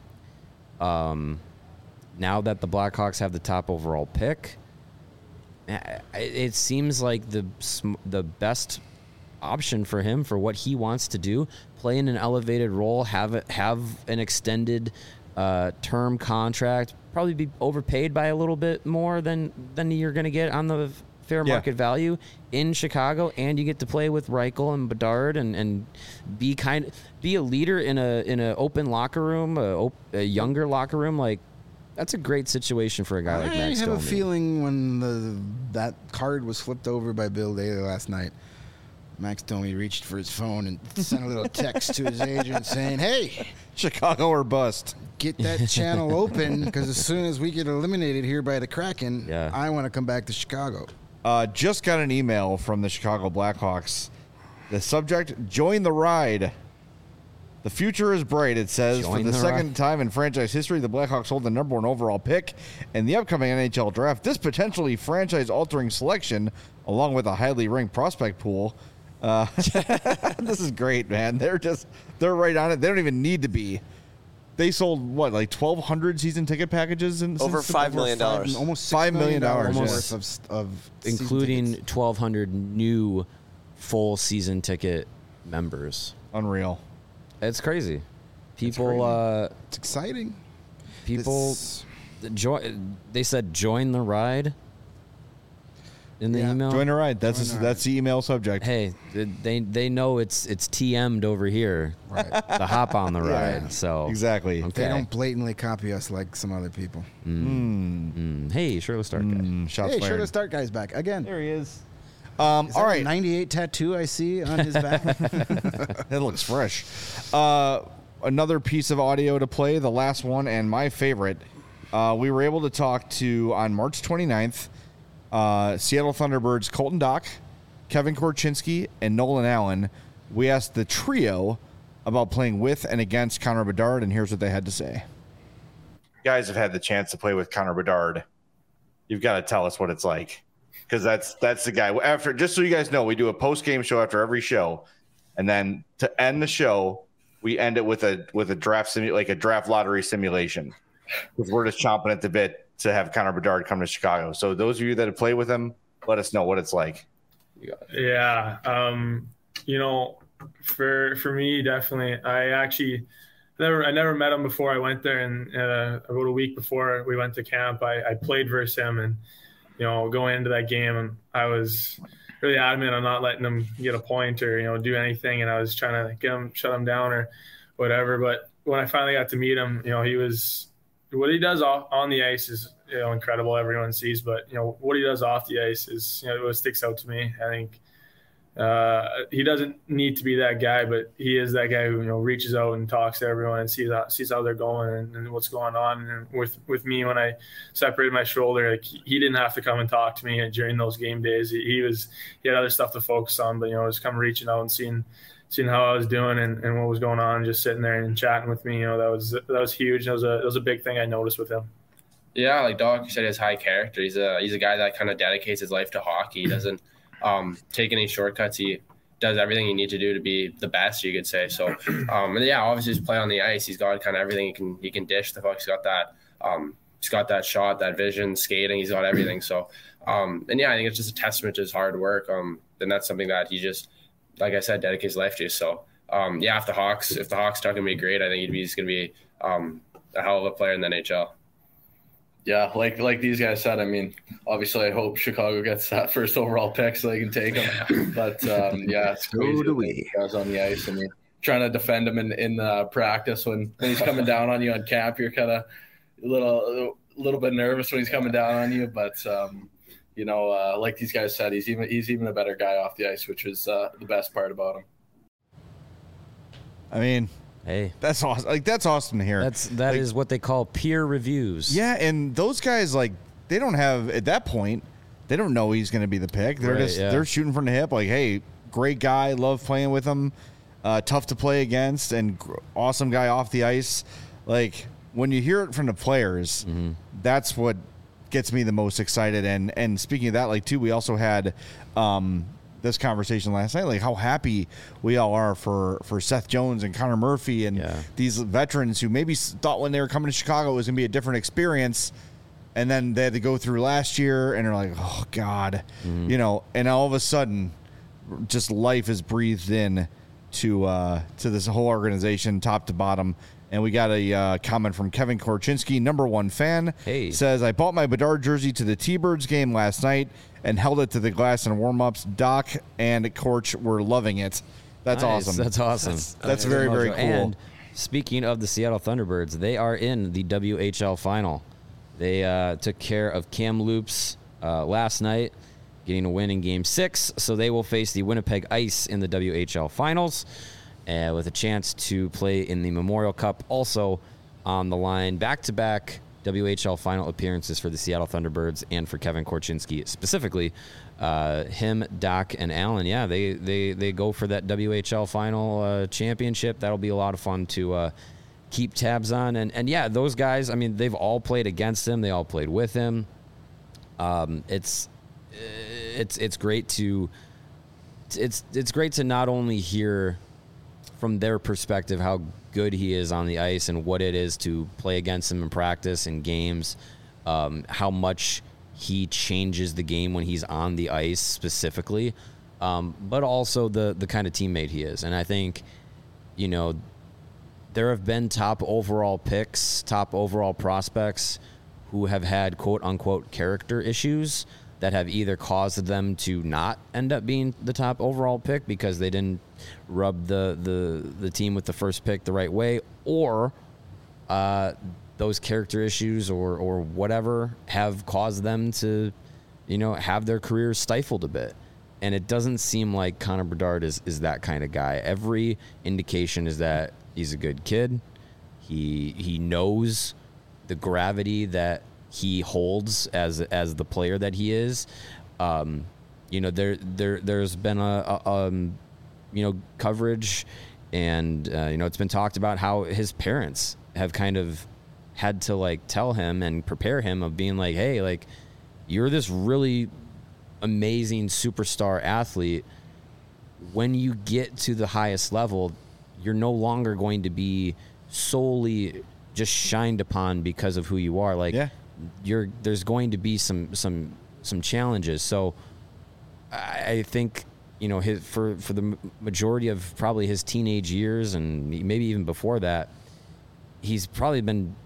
Now that the Blackhawks have the top overall pick, it seems like the best option for him for what he wants to do, play in an elevated role, have an extended term contract, probably be overpaid by a little bit more than you're going to get on the fair market value in Chicago, and you get to play with Reichel and Bedard and be a leader in a open locker room, a younger locker room. Like, that's a great situation for a guy like Max Domi. I have a feeling when that card was flipped over by Bill Daly last night, Max Domi reached for his phone and sent a little text to his agent saying, hey, Chicago or bust. Get that channel open, because as soon as we get eliminated here by the Kraken, Yeah. I want to come back to Chicago. Just got an email from the Chicago Blackhawks. The subject, join the ride. The future is bright, it says. Join For the the second ride. time in franchise history, the Blackhawks hold the number 1 overall pick in the upcoming NHL draft. This potentially franchise-altering selection, along with a highly ranked prospect pool. This is great, man. They're right on it. They don't even need to be. They sold, what, like 1,200 season ticket packages? Over $5 million. Almost $5 million worth of including season tickets. 1,200 new full season ticket members. Unreal. It's crazy. People, It's exciting. people, they said join the ride in the Yeah. email. Join the ride. Join the That's the email subject. Hey, they know it's TM'd over here. Right. The hop on the ride. So Exactly. Okay. They don't blatantly copy us like some other people. Hey, Shirley Stark. Shots Hey, fired. sure to start guys back again. There he is. Is All that a right. 98 tattoo I see on his back. That looks fresh. Another piece of audio to play, the last one and my favorite. We were able to talk to, on March 29th, Seattle Thunderbirds Colton Dock, Kevin Korchinski, and Nolan Allen. We asked the trio about playing with and against Connor Bedard, and here's what they had to say. You guys have had the chance to play with Connor Bedard. You've got to tell us what it's like, because that's the guy. After, just so you guys know, we do a post-game show after every show, and then to end the show, we end it with a draft like a draft lottery simulation, because we're just chomping at the bit to have Connor Bedard come to Chicago. So those of you that have played with him, let us know what it's like. Yeah, you know, for me, definitely. I never met him before I went there, and about a week before we went to camp, I played versus him, and you know, going into that game, I was really adamant on not letting him get a point or do anything, and I was trying to shut him down or whatever. But when I finally got to meet him, he was, what he does on the ice is incredible. Everyone sees, but what he does off the ice is what sticks out to me. I think he doesn't need to be that guy, but he is that guy who reaches out and talks to everyone and sees how they're going and what's going on. And with me, when I separated my shoulder, like, he didn't have to come and talk to me during those game days. He had other stuff to focus on, but just come reaching out and seeing how I was doing and what was going on, and just sitting there and chatting with me. That was huge. That was a big thing I noticed with him. Yeah, like Doc said, his high character. He's a guy that kind of dedicates his life to hockey. He doesn't take any shortcuts. He does everything you need to do to be the best, you could say. So, and yeah, obviously his play on the ice, he's got kind of everything. He can dish the puck. He's got that shot, that vision, skating. He's got everything. So, and yeah, I think it's just a testament to his hard work. And that's something that he just, like I said, dedicates his life to. So, yeah, if the Hawks talking to me, great. I think he's going to be a hell of a player in the NHL. Yeah, like these guys said, I mean, obviously I hope Chicago gets that first overall pick so they can take him. But, yeah, it's crazy. So do we. Guys on the ice. I mean, trying to defend him in practice when he's coming down on you on camp, you're kind of a little bit nervous when he's coming down on you. But, you know, like these guys said, he's even a better guy off the ice, which is the best part about him. I mean, hey, that's awesome. Like, that's awesome to hear. That is what they call peer reviews. Yeah, and those guys, like, they don't have, at that point, they don't know he's going to be the pick. They're they're shooting from the hip. Like, hey, great guy, love playing with him, tough to play against, and awesome guy off the ice. Like, when you hear it from the players, that's what gets me the most excited. And speaking of that, like, too, we also had this conversation last night, like how happy we all are for Seth Jones and Connor Murphy and these veterans who maybe thought when they were coming to Chicago it was going to be a different experience, and then they had to go through last year and they're like, oh God, you know, and all of a sudden just life is breathed in to this whole organization top to bottom. And we got a comment from Kevin Korchinski, #1 fan. Hey. Says, I bought my Bedard jersey to the T-Birds game last night and held it to the glass in warm-ups. Doc and Korch were loving it. That's nice. awesome. That's awesome. That's very, very cool. And speaking of the Seattle Thunderbirds, they are in the WHL final. They took care of Kamloops last night, getting a win in Game 6. So they will face the Winnipeg Ice in the WHL finals. With a chance to play in the Memorial Cup also on the line. Back-to-back WHL final appearances for the Seattle Thunderbirds and for Kevin Korchinski specifically. Him, Doc, and Allen, yeah, they go for that WHL final championship. That'll be a lot of fun to keep tabs on. And yeah, those guys, I mean, they've all played against him. They all played with him. It's great to it's great to not only hear from their perspective how good he is on the ice and what it is to play against him in practice and games, how much he changes the game when he's on the ice specifically, but also the kind of teammate he is. And I think, you know, there have been top overall picks, top overall prospects who have had quote-unquote character issues that have either caused them to not end up being the top overall pick because they didn't rub the team with the first pick the right way, or those character issues or whatever have caused them to, you know, have their careers stifled a bit. And it doesn't seem like Connor Bedard is that kind of guy. Every indication is that he's a good kid. He knows the gravity that he holds as the player that he is. You know, there's been a you know, coverage, and you know, it's been talked about how his parents have kind of had to like tell him and prepare him of being like, hey, like, you're this really amazing superstar athlete. When you get to the highest level, you're no longer going to be solely just shined upon because of who you are. Like, there's going to be some challenges. So I think, you know, for the majority of probably his teenage years and maybe even before that, he's probably been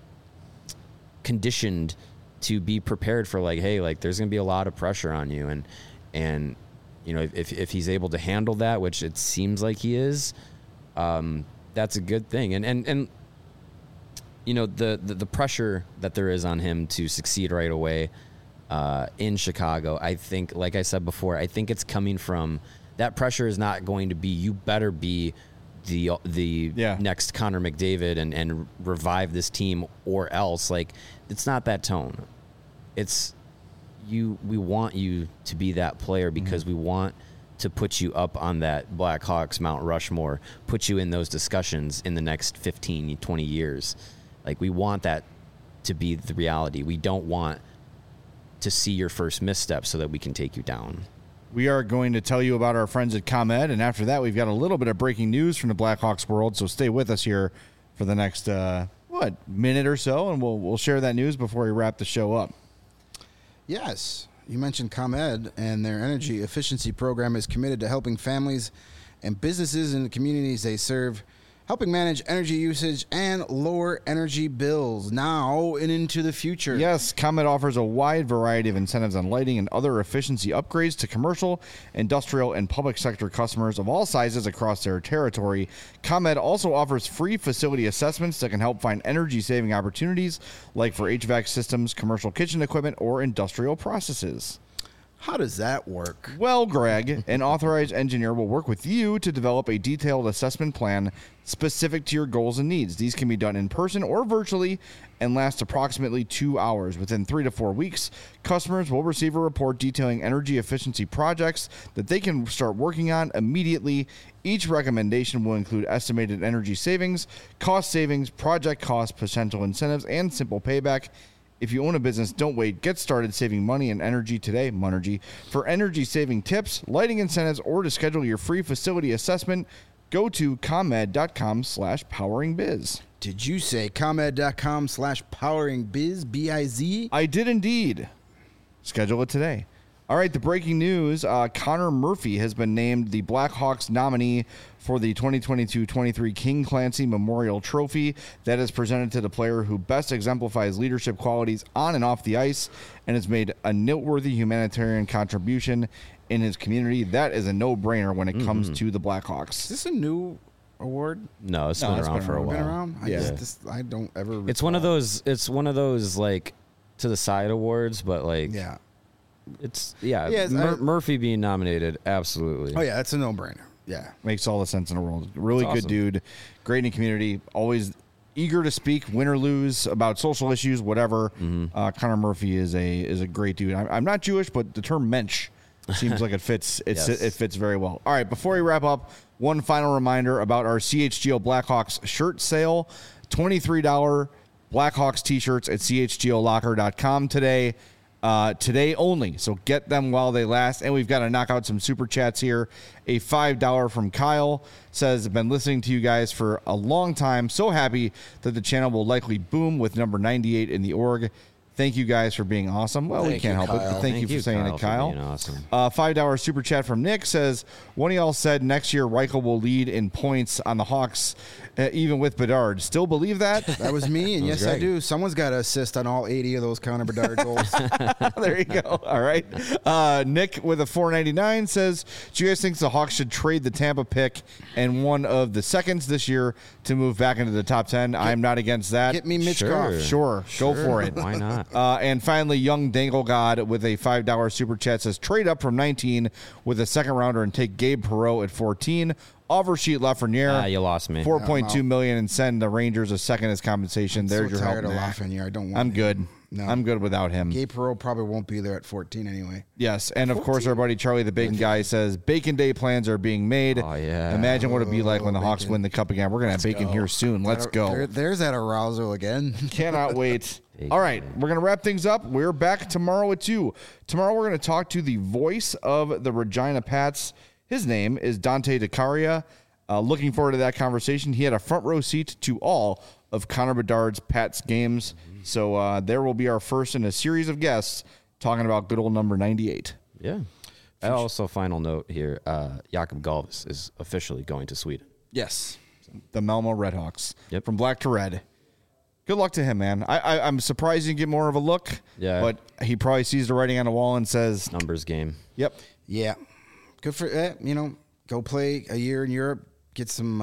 conditioned to be prepared for like, hey, like, there's going to be a lot of pressure on you. And you know, if he's able to handle that, which it seems like he is, that's a good thing. And you know, the pressure that there is on him to succeed right away in Chicago, I think, like I said before, I think it's coming from, that pressure is not going to be, you better be the next Connor McDavid and revive this team or else. Like, it's not that tone. It's we want you to be that player because we want to put you up on that Blackhawks Mount Rushmore, put you in those discussions in the next 15, 20 years. Like, we want that to be the reality. We don't want to see your first misstep so that we can take you down. we are going to tell you about our friends at ComEd, and after that, we've got a little bit of breaking news from the Blackhawks world, so stay with us here for the next, minute or so, and we'll share that news before we wrap the show up. Yes, you mentioned ComEd, and their energy efficiency program is committed to helping families and businesses in the communities they serve, helping manage energy usage and lower energy bills now and into the future. Yes, ComEd offers a wide variety of incentives on lighting and other efficiency upgrades to commercial, industrial, and public sector customers of all sizes across their territory. ComEd also offers free facility assessments that can help find energy-saving opportunities, like for HVAC systems, commercial kitchen equipment, or industrial processes. How does that work? Well, Greg, an authorized engineer will work with you to develop a detailed assessment plan specific to your goals and needs. These can be done in person or virtually and last approximately 2 hours. Within 3 to 4 weeks, customers will receive a report detailing energy efficiency projects that they can start working on immediately. Each recommendation will include estimated energy savings, cost savings, project costs, potential incentives, and simple payback. If you own a business, don't wait. Get started saving money and energy today, Monergy. For energy-saving tips, lighting incentives, or to schedule your free facility assessment, go to ComEd.com/poweringbiz. Did you say ComEd.com/poweringbiz, B-I-Z? I did indeed. Schedule it today. All right, the breaking news, Connor Murphy has been named the Blackhawks nominee for the 2022-23 King Clancy Memorial Trophy. That is presented to the player who best exemplifies leadership qualities on and off the ice and has made a noteworthy humanitarian contribution in his community. That is a no-brainer when it comes to the Blackhawks. Is this a new award? No, it's been around for a while. Been around? I don't ever recall. It's one of those like to the side awards, but like Murphy being nominated, absolutely. Oh yeah, it's a no-brainer. Yeah, makes all the sense in the world. Really That's good awesome. dude, great in the community, always eager to speak, win or lose, about social issues, whatever. Connor Murphy is a great dude. I'm not Jewish, but the term mensch seems like it fits. It fits very well. All right, before we wrap up, one final reminder about our CHGO Blackhawks shirt sale: $23 Blackhawks t-shirts at chgolocker.com today. Today only, so get them while they last. And we've got to knock out some super chats here. A $5 from Kyle says, I've been listening to you guys for a long time. So happy that the channel will likely boom with number 98 in the org. Thank you guys for being awesome. Well, we can't help it. But thank you for saying it, Kyle. Being awesome. $5 super chat from Nick says, one of y'all said next year Reichel will lead in points on the Hawks, even with Bedard. Still believe that? That was me, and yes, I do. Someone's got to assist on all 80 of those Connor Bedard goals. There you go. All right. Nick with a $4.99 says, do you guys think the Hawks should trade the Tampa pick and one of the seconds this year to move back into the top 10? I'm not against that. Get me Mitch Goff. Sure. Go for it. Why not? And finally, Young Dangle God with a $5 super chat says, trade up from 19 with a second rounder and take Gabe Perreault at 14. Offer sheet Lafreniere. You lost me. $4.2 million and send the Rangers a second as compensation. There's your help. I'm so tired of Lafreniere. I don't want I'm him. good. No. I'm good without him. Gabe Perreault probably won't be there at 14 anyway. Yes, and of course our buddy Charlie the Bacon Guy says Bacon Day plans are being made. Oh yeah. Imagine what it'd be like when the Hawks win the cup again. We're gonna have bacon here soon. Let's go. There's that arousal again. Cannot wait. All right, we're going to wrap things up. We're back tomorrow at 2. Tomorrow we're going to talk to the voice of the Regina Pats. His name is Dante DeCaria. Looking forward to that conversation. He had a front row seat to all of Connor Bedard's Pats games. So there will be our first in a series of guests talking about good old number 98. Yeah. And also, final note here, Jakob Galvis is officially going to Sweden. Yes. The Malmo Redhawks. Yep. From black to red. Good luck to him, man. I'm surprised he didn't get more of a look. Yeah. But he probably sees the writing on the wall and says... Numbers game. Yep. Yeah. Good for, go play a year in Europe, get some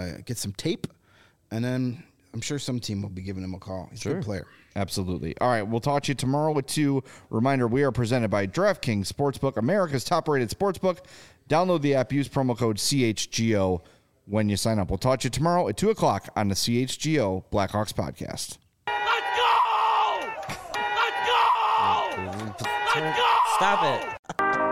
tape, and then I'm sure some team will be giving him a call. He's a good player. Absolutely. All right, we'll talk to you tomorrow at 2. Reminder, we are presented by DraftKings Sportsbook, America's top-rated sportsbook. Download the app, use promo code CHGO when you sign up. We'll talk to you tomorrow at 2 o'clock on the CHGO Blackhawks podcast. Let's go! Let's go! Let's go! Stop it.